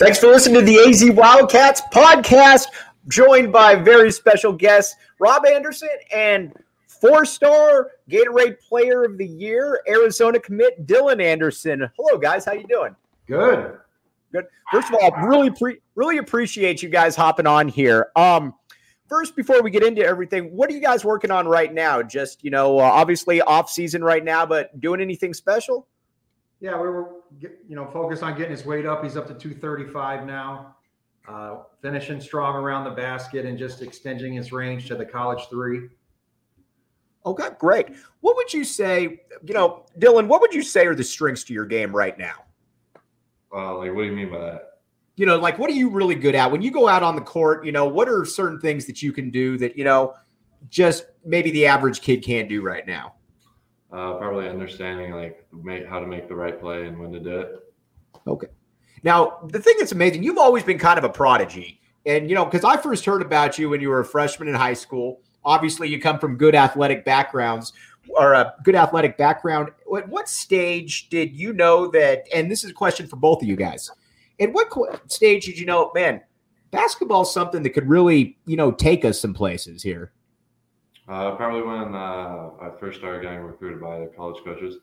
Thanks for listening to the AZ Wildcats podcast, joined by very special guests, Rob Anderson and four-star Gatorade Player of the Year, Arizona commit Dylan Anderson. Hello, guys. How you doing? Good. First of all, really appreciate you guys hopping on here. First, before we get into everything, what are you guys working on right now? Just, obviously off season right now, but doing anything special? Yeah, we were, focused on getting his weight up. He's up to 235 now, finishing strong around the basket and just extending his range to the college three. Okay, great. What would you say, Dylan, what would you say are the strengths to your game right now? What do you mean by that? What are you really good at? When you go out on the court, what are certain things that you can do that, just maybe the average kid can't do right now? Probably understanding how to make the right play and when to do it. Okay. Now, the thing that's amazing, you've always been kind of a prodigy. And, because I first heard about you when you were a freshman in high school. Obviously, you come from good athletic backgrounds or a good athletic background. At what stage did you know that, and this is a question for both of you guys, at what stage did you know, man, basketball is something that could really, take us some places here? Probably when I first started getting recruited by the college coaches.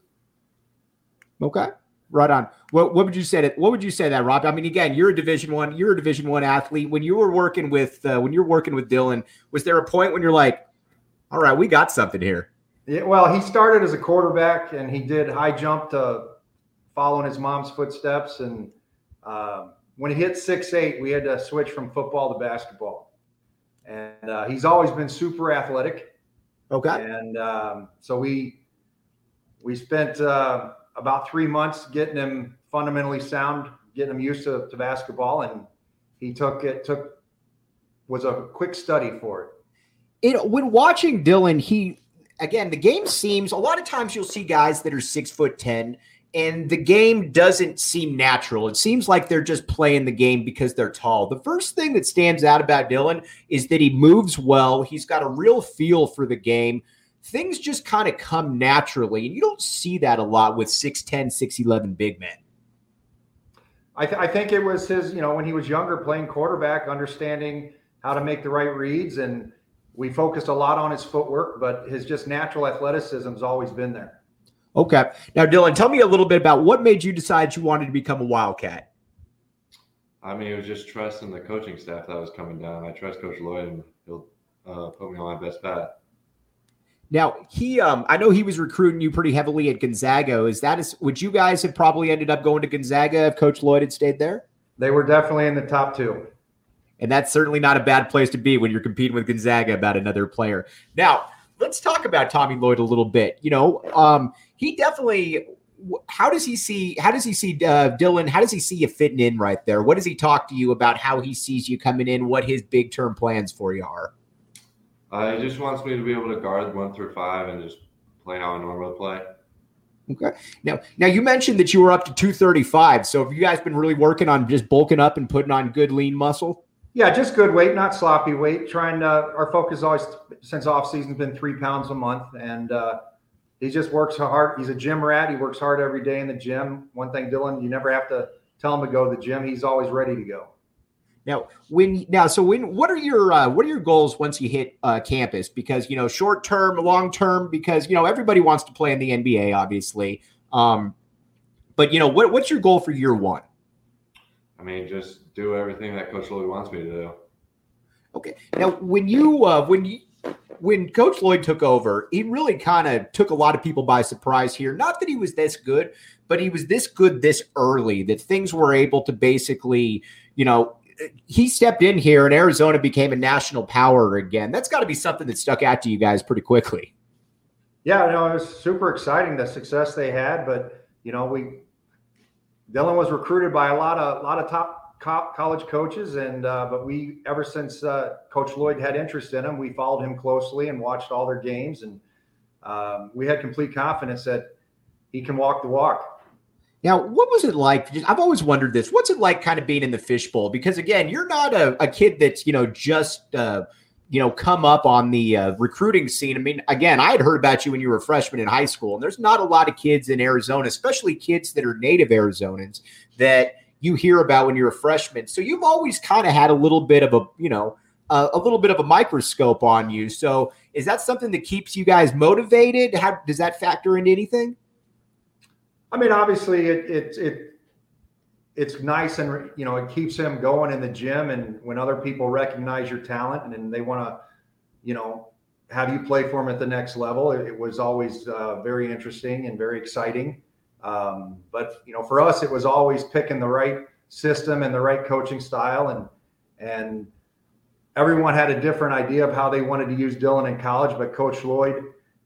Okay, right on. What would you say that, Rob? I mean, again, you're a Division I athlete. When you were working with Dylan, was there a point when you're like, all right, we got something here? Yeah, well, he started as a quarterback and he did high jump to follow in his mom's footsteps. And when he hit 6'8", we had to switch from football to basketball. And he's always been super athletic. Okay. And so we spent about 3 months getting him fundamentally sound, getting him used to basketball, and he was a quick study for it. When watching Dylan, the game seems, a lot of times you'll see guys that are 6'10", and the game doesn't seem natural. It seems like they're just playing the game because they're tall. The first thing that stands out about Dylan is that he moves well. He's got a real feel for the game. Things just kind of come naturally, and you don't see that a lot with 6'10", 6'11" big men. I think it was his, when he was younger, playing quarterback, understanding how to make the right reads, and we focused a lot on his footwork, but his just natural athleticism has always been there. Okay. Now, Dylan, tell me a little bit about what made you decide you wanted to become a Wildcat. I mean, it was just trusting the coaching staff that was coming down. I trust Coach Lloyd, and he'll put me on my best path. Now, I know he was recruiting you pretty heavily at Gonzaga. Would you guys have probably ended up going to Gonzaga if Coach Lloyd had stayed there? They were definitely in the top two. And that's certainly not a bad place to be when you're competing with Gonzaga about another player. Now, let's talk about Tommy Lloyd a little bit. He definitely. How does he see Dylan? How does he see you fitting in right there? What does he talk to you about? How he sees you coming in? What his big term plans for you are? He just wants me to be able to guard 1 through 5 and just play how I normally play. Okay. Now you mentioned that you were up to 235. So have you guys been really working on just bulking up and putting on good lean muscle? Yeah, just good weight, not sloppy weight. Our focus always since off season's been 3 pounds a month, and he just works hard. He's a gym rat. He works hard every day in the gym. One thing, Dylan, you never have to tell him to go to the gym. He's always ready to go. Now, what are your goals once you hit campus? Because short term, long term. Because everybody wants to play in the NBA, obviously. But what's your goal for year one? I mean, just do everything that Coach Lloyd wants me to do. Okay. Now, when Coach Lloyd took over, he really kind of took a lot of people by surprise here. Not that he was this good, but he was this good this early that things were able to basically, he stepped in here and Arizona became a national power again. That's got to be something that stuck out to you guys pretty quickly. Yeah, it was super exciting, the success they had, but Dylan was recruited by a lot of top college coaches, and but we, ever since Coach Lloyd had interest in him, we followed him closely and watched all their games, and we had complete confidence that he can walk the walk. Now, what was it like? I've always wondered this. What's it like kind of being in the fishbowl? Because again, you're not a kid that's just come up on the recruiting scene. I mean, again, I had heard about you when you were a freshman in high school, and there's not a lot of kids in Arizona, especially kids that are native Arizonans, that you hear about when you're a freshman. So you've always kind of had a little bit of a little bit of a microscope on you. So is that something that keeps you guys motivated? How does that factor into anything? I mean, obviously it's nice, and it keeps him going in the gym, and when other people recognize your talent and they want to have you play for them at the next level, it was always very interesting and very exciting. But for us, it was always picking the right system and the right coaching style, and everyone had a different idea of how they wanted to use Dylan in college. But Coach Lloyd,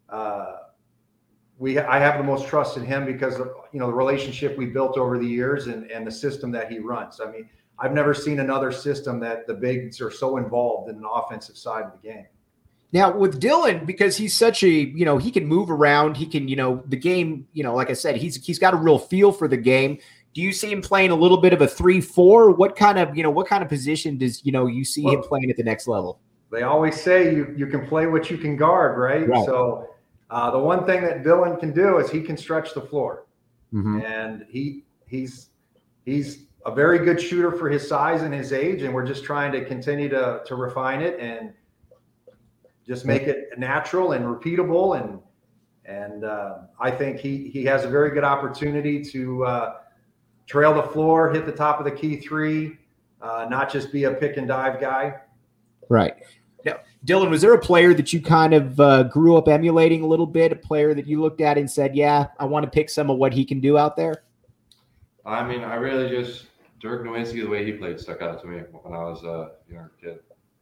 I have the most trust in him because of the relationship we built over the years and the system that he runs. I mean, I've never seen another system that the bigs are so involved in an offensive side of the game. Now with Dylan, because he's such a, he can move around, he can, the game, like I said, he's got a real feel for the game. Do you see him playing a little bit of a 3-4? What kind of position does, you see him playing at the next level? They always say you can play what you can guard, right? So the one thing that Dylan can do is he can stretch the floor. Mm-hmm. And he's a very good shooter for his size and his age. And we're just trying to continue to refine it and just make it natural and repeatable. And I think he has a very good opportunity to trail the floor, hit the top of the key three, not just be a pick and dive guy. Right. Now, Dylan, was there a player that you kind of grew up emulating a little bit, a player that you looked at and said, yeah, I want to pick some of what he can do out there? I mean, I really just Dirk Nowitzki, the way he played stuck out to me when I was a younger kid.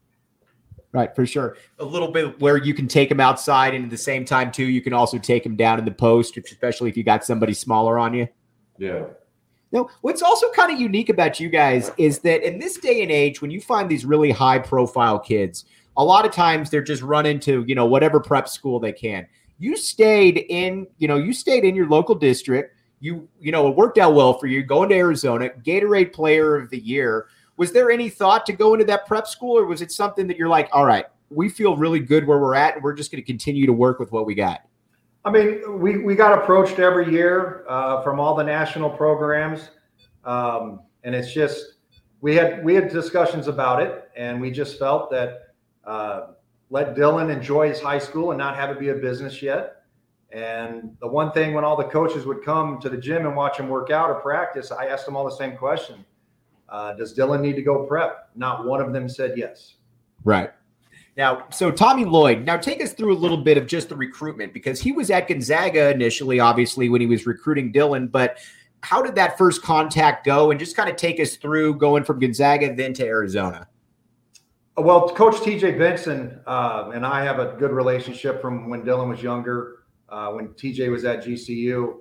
Right, for sure. A little bit where you can take him outside, and at the same time, too, you can also take him down in the post, especially if you got somebody smaller on you. Yeah. Now, what's also kind of unique about you guys is that in this day and age, when you find these really high-profile kids, a lot of times they're just running to, whatever prep school they can. You stayed in your local district. It worked out well for you going to Arizona, Gatorade Player of the Year. Was there any thought to go into that prep school, or was it something that you're like, all right, we feel really good where we're at, and we're just going to continue to work with what we got? I mean, we got approached every year from all the national programs, and it's just we had discussions about it, and we just felt that let Dylan enjoy his high school and not have it be a business yet. And the one thing, when all the coaches would come to the gym and watch him work out or practice, I asked them all the same question. Does Dylan need to go prep? Not one of them said yes. Right. Now, so Tommy Lloyd, now take us through a little bit of just the recruitment, because he was at Gonzaga initially, obviously, when he was recruiting Dylan, but how did that first contact go? And just kind of take us through going from Gonzaga then to Arizona. Well, Coach TJ Benson and I have a good relationship from when Dylan was younger, when TJ was at GCU.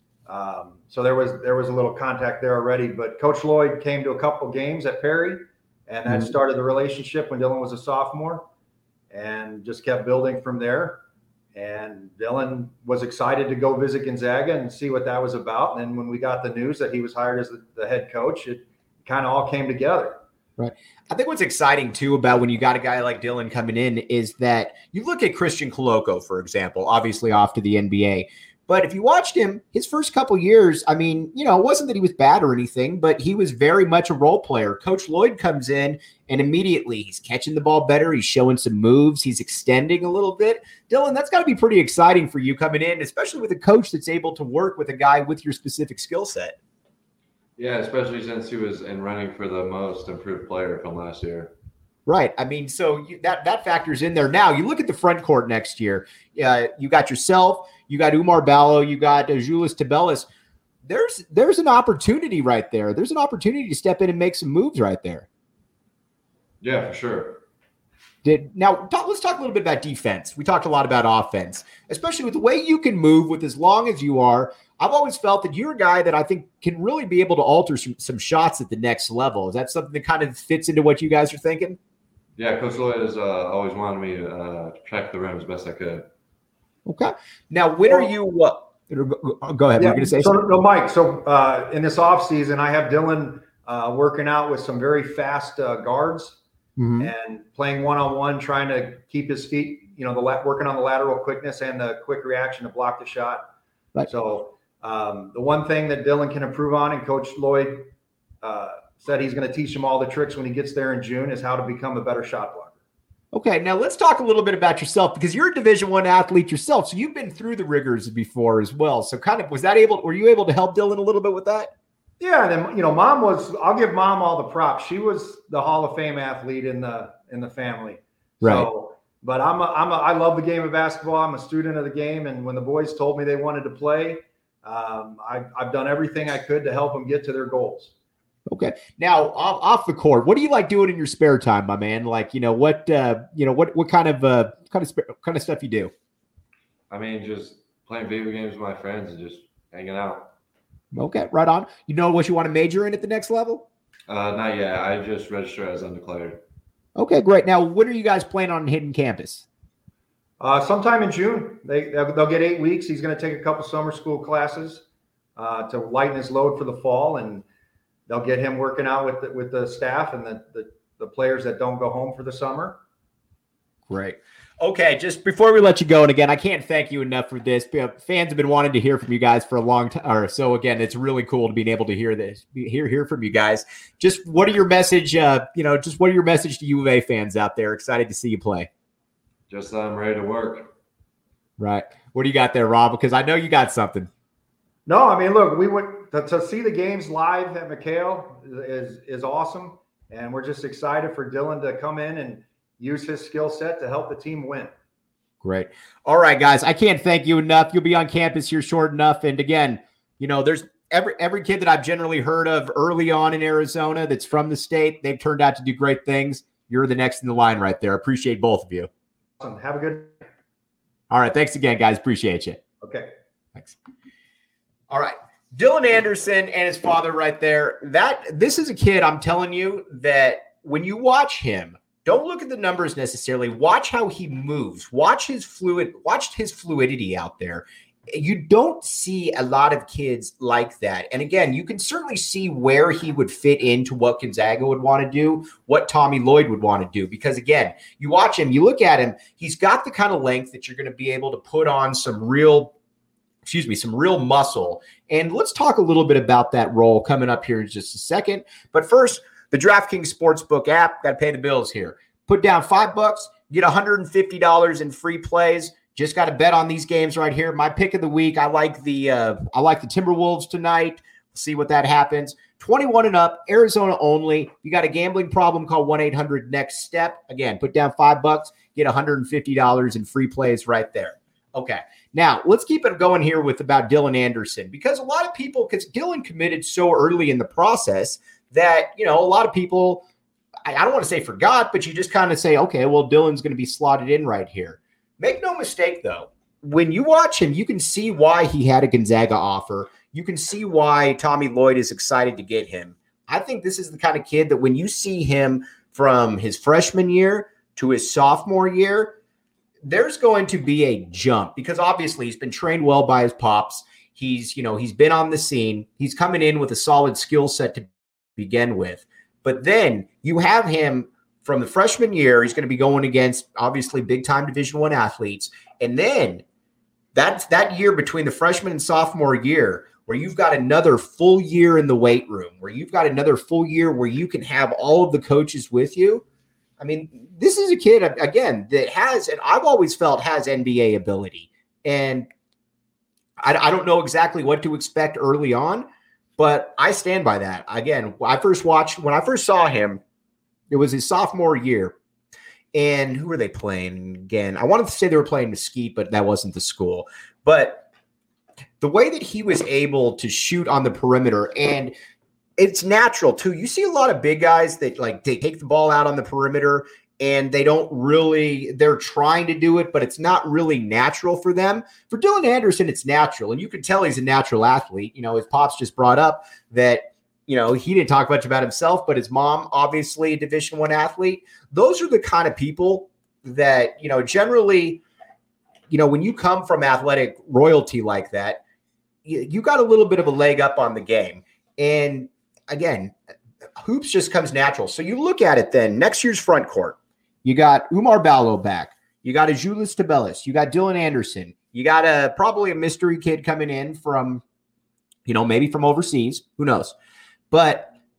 So there was a little contact there already, but Coach Lloyd came to a couple games at Perry, and that started the relationship when Dylan was a sophomore, and just kept building from there. And Dylan was excited to go visit Gonzaga and see what that was about. And then when we got the news that he was hired as the head coach, it kind of all came together. Right. I think what's exciting, too, about when you got a guy like Dylan coming in is that you look at Christian Koloko, for example, obviously off to the NBA. But if you watched him, his first couple years, I mean, it wasn't that he was bad or anything, but he was very much a role player. Coach Lloyd comes in, and immediately he's catching the ball better. He's showing some moves. He's extending a little bit. Dylan, that's got to be pretty exciting for you coming in, especially with a coach that's able to work with a guy with your specific skill set. Yeah, especially since he was in running for the most improved player from last year. Right. I mean, so that factors in there. Now, you look at the front court next year. You got yourself, you got Umar Ballo, you got Julius Tabelis. There's an opportunity right there. There's an opportunity to step in and make some moves right there. Yeah, for sure. Let's talk a little bit about defense. We talked a lot about offense, especially with the way you can move with as long as you are. I've always felt that you're a guy that I think can really be able to alter some shots at the next level. Is that something that kind of fits into what you guys are thinking? Yeah, Coach Lloyd has always wanted me to protect the rim as best I could. Okay. Now, when are you go ahead. Yeah, You're going to say something? No, Mike. So in this offseason, I have Dylan working out with some very fast guards and playing one-on-one, trying to keep his feet, working on the lateral quickness and the quick reaction to block the shot. Right. So the one thing that Dylan can improve on, and Coach Lloyd said he's going to teach him all the tricks when he gets there in June, is how to become a better shot blocker. Okay, now let's talk a little bit about yourself, because you're a Division I athlete yourself, so you've been through the rigors before as well. So were you able to help Dylan a little bit with that? Yeah, and then I'll give Mom all the props. She was the Hall of Fame athlete in the family. Right. So, but I love the game of basketball. I'm a student of the game, and when the boys told me they wanted to play, I've done everything I could to help them get to their goals. Okay. Now off the court, what do you like doing in your spare time, my man? Like, what kind of stuff you do? I mean, just playing video games with my friends and just hanging out. Okay, right on. You know what you want to major in at the next level? Not yet. I just registered as undeclared. Okay, great. Now, when are you guys planning on hitting campus? Sometime in June. They'll get 8 weeks. He's going to take a couple summer school classes to lighten his load for the fall, and they'll get him working out with the staff and the players that don't go home for the summer. Great. Okay, just before we let you go, and again, I can't thank you enough for this. Fans have been wanting to hear from you guys for a long time, or so. Again, it's really cool to be able to hear from you guys. Just what are your message? Just what are your message to U of A fans out there? Excited to see you play. Just that I'm ready to work. Right. What do you got there, Rob? Because I know you got something. No, I mean, look, we went to see the games live at McHale is awesome, and we're just excited for Dylan to come in and use his skill set to help the team win. Great. All right, guys, I can't thank you enough. You'll be on campus here short enough. And again, there's every kid that I've generally heard of early on in Arizona that's from the state. They've turned out to do great things. You're the next in the line right there. Appreciate both of you. Awesome. Have a good. All right. Thanks again, guys. Appreciate you. Okay. Thanks. All right. Dylan Anderson and his father right there. This is a kid, I'm telling you, that when you watch him, don't look at the numbers necessarily. Watch how he moves. Watch his fluidity out there. You don't see a lot of kids like that. And again, you can certainly see where he would fit into what Gonzaga would want to do, what Tommy Lloyd would want to do. Because again, you watch him, you look at him, he's got the kind of length that you're going to be able to put on some real muscle. And let's talk a little bit about that role coming up here in just a second. But first, the DraftKings Sportsbook app, got to pay the bills here. Put down $5, get $150 in free plays. Just got to bet on these games right here. My pick of the week, I like the Timberwolves tonight. See what that happens. 21 and up, Arizona only. You got a gambling problem, call 1-800-NEXT-STEP. Again, put down $5, get $150 in free plays right there. Okay, now let's keep it going here with about Dylan Anderson, because a lot of people, because Dylan committed so early in the process that, a lot of people, I don't want to say forgot, but you just kind of say, okay, well, Dylan's going to be slotted in right here. Make no mistake, though. When you watch him, you can see why he had a Gonzaga offer. You can see why Tommy Lloyd is excited to get him. I think this is the kind of kid that when you see him from his freshman year to his sophomore year, there's going to be a jump, because obviously he's been trained well by his pops. He's been on the scene. He's coming in with a solid skill set to begin with. But then you have him from the freshman year. He's going to be going against obviously big-time Division I athletes. And then that year between the freshman and sophomore year, where you've got another full year in the weight room, where you've got another full year where you can have all of the coaches with you. I mean, this is a kid, again, that has, and I've always felt has NBA ability. And I don't know exactly what to expect early on, but I stand by that. Again, when I first saw him, it was his sophomore year. And who were they playing again? I wanted to say they were playing Mesquite, but that wasn't the school. But the way that he was able to shoot on the perimeter, and it's natural too. You see a lot of big guys that they take the ball out on the perimeter and they're trying to do it, but it's not really natural for them. For Dylan Anderson, it's natural. And you can tell he's a natural athlete. His pops just brought up that, he didn't talk much about himself, but his mom, obviously a Division I athlete. Those are the kind of people that, generally, when you come from athletic royalty like that, you got a little bit of a leg up on the game. And again, hoops just comes natural. So you look at it then, next year's front court, you got Umar Ballo back. You got a Julius Tabelis. You got Dylan Anderson. You got probably a mystery kid coming in from, maybe from overseas. Who knows? But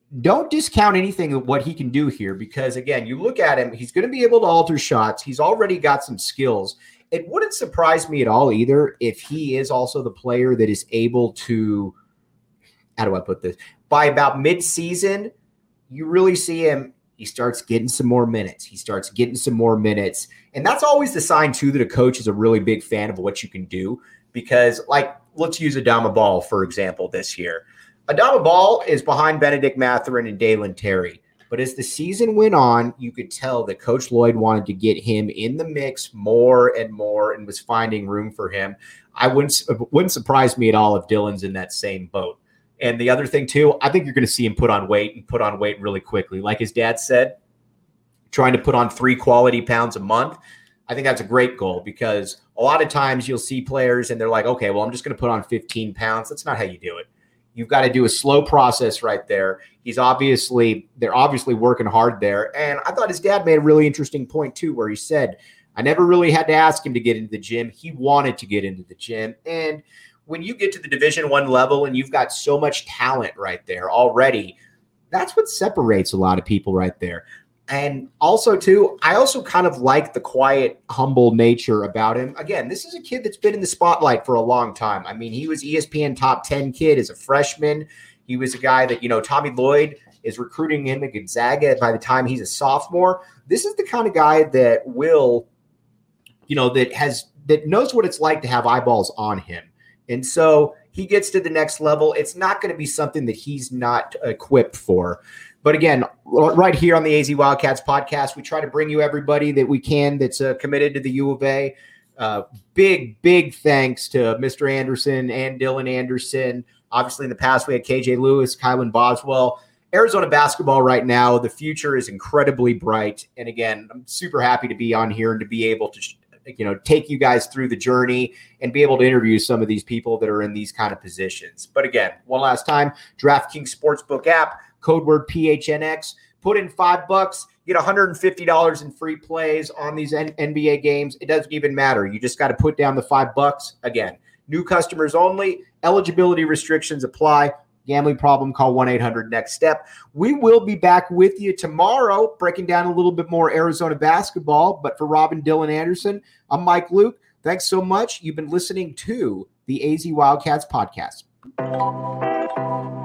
don't discount anything of what he can do here because, again, you look at him, he's going to be able to alter shots. He's already got some skills. It wouldn't surprise me at all either if he is also the player that is able to, how do I put this? By about mid-season, you really see him, he starts getting some more minutes. And that's always the sign, too, that a coach is a really big fan of what you can do because, like, let's use Adama Ball, for example, this year. Adama Ball is behind Benedict Mathurin and Dalen Terry. But as the season went on, you could tell that Coach Lloyd wanted to get him in the mix more and more and was finding room for him. It wouldn't surprise me at all if Dylan's in that same boat. And the other thing, too, I think you're going to see him put on weight really quickly. Like his dad said, trying to put on 3 quality pounds a month. I think that's a great goal because a lot of times you'll see players and they're like, okay, well, I'm just going to put on 15 pounds. That's not how you do it. You've got to do a slow process right there. They're obviously working hard there. And I thought his dad made a really interesting point too, where he said, I never really had to ask him to get into the gym. He wanted to get into the gym. And when you get to the Division I level and you've got so much talent right there already, that's what separates a lot of people right there. And also, too, I also kind of like the quiet, humble nature about him. Again, this is a kid that's been in the spotlight for a long time. I mean, he was ESPN top 10 kid as a freshman. He was a guy that, Tommy Lloyd is recruiting him at Gonzaga by the time he's a sophomore. This is the kind of guy that will, that knows what it's like to have eyeballs on him. And so he gets to the next level. It's not going to be something that he's not equipped for. But again, right here on the AZ Wildcats podcast, we try to bring you everybody that we can that's committed to the U of A. Big thanks to Mr. Anderson and Dylan Anderson. Obviously, in the past, we had KJ Lewis, Kylan Boswell. Arizona basketball right now, the future is incredibly bright. And again, I'm super happy to be on here and to be able to take you guys through the journey and be able to interview some of these people that are in these kind of positions. But again, one last time, DraftKings Sportsbook app, code word PHNX, put in $5, get $150 in free plays on these NBA games. It doesn't even matter. You just got to put down the $5. Again, new customers only. Eligibility restrictions apply. Gambling problem, call 1-800-NEXT-STEP. We will be back with you tomorrow, breaking down a little bit more Arizona basketball. But for Robin, Dylan Anderson, I'm Mike Luke. Thanks so much. You've been listening to the AZ Wildcats podcast.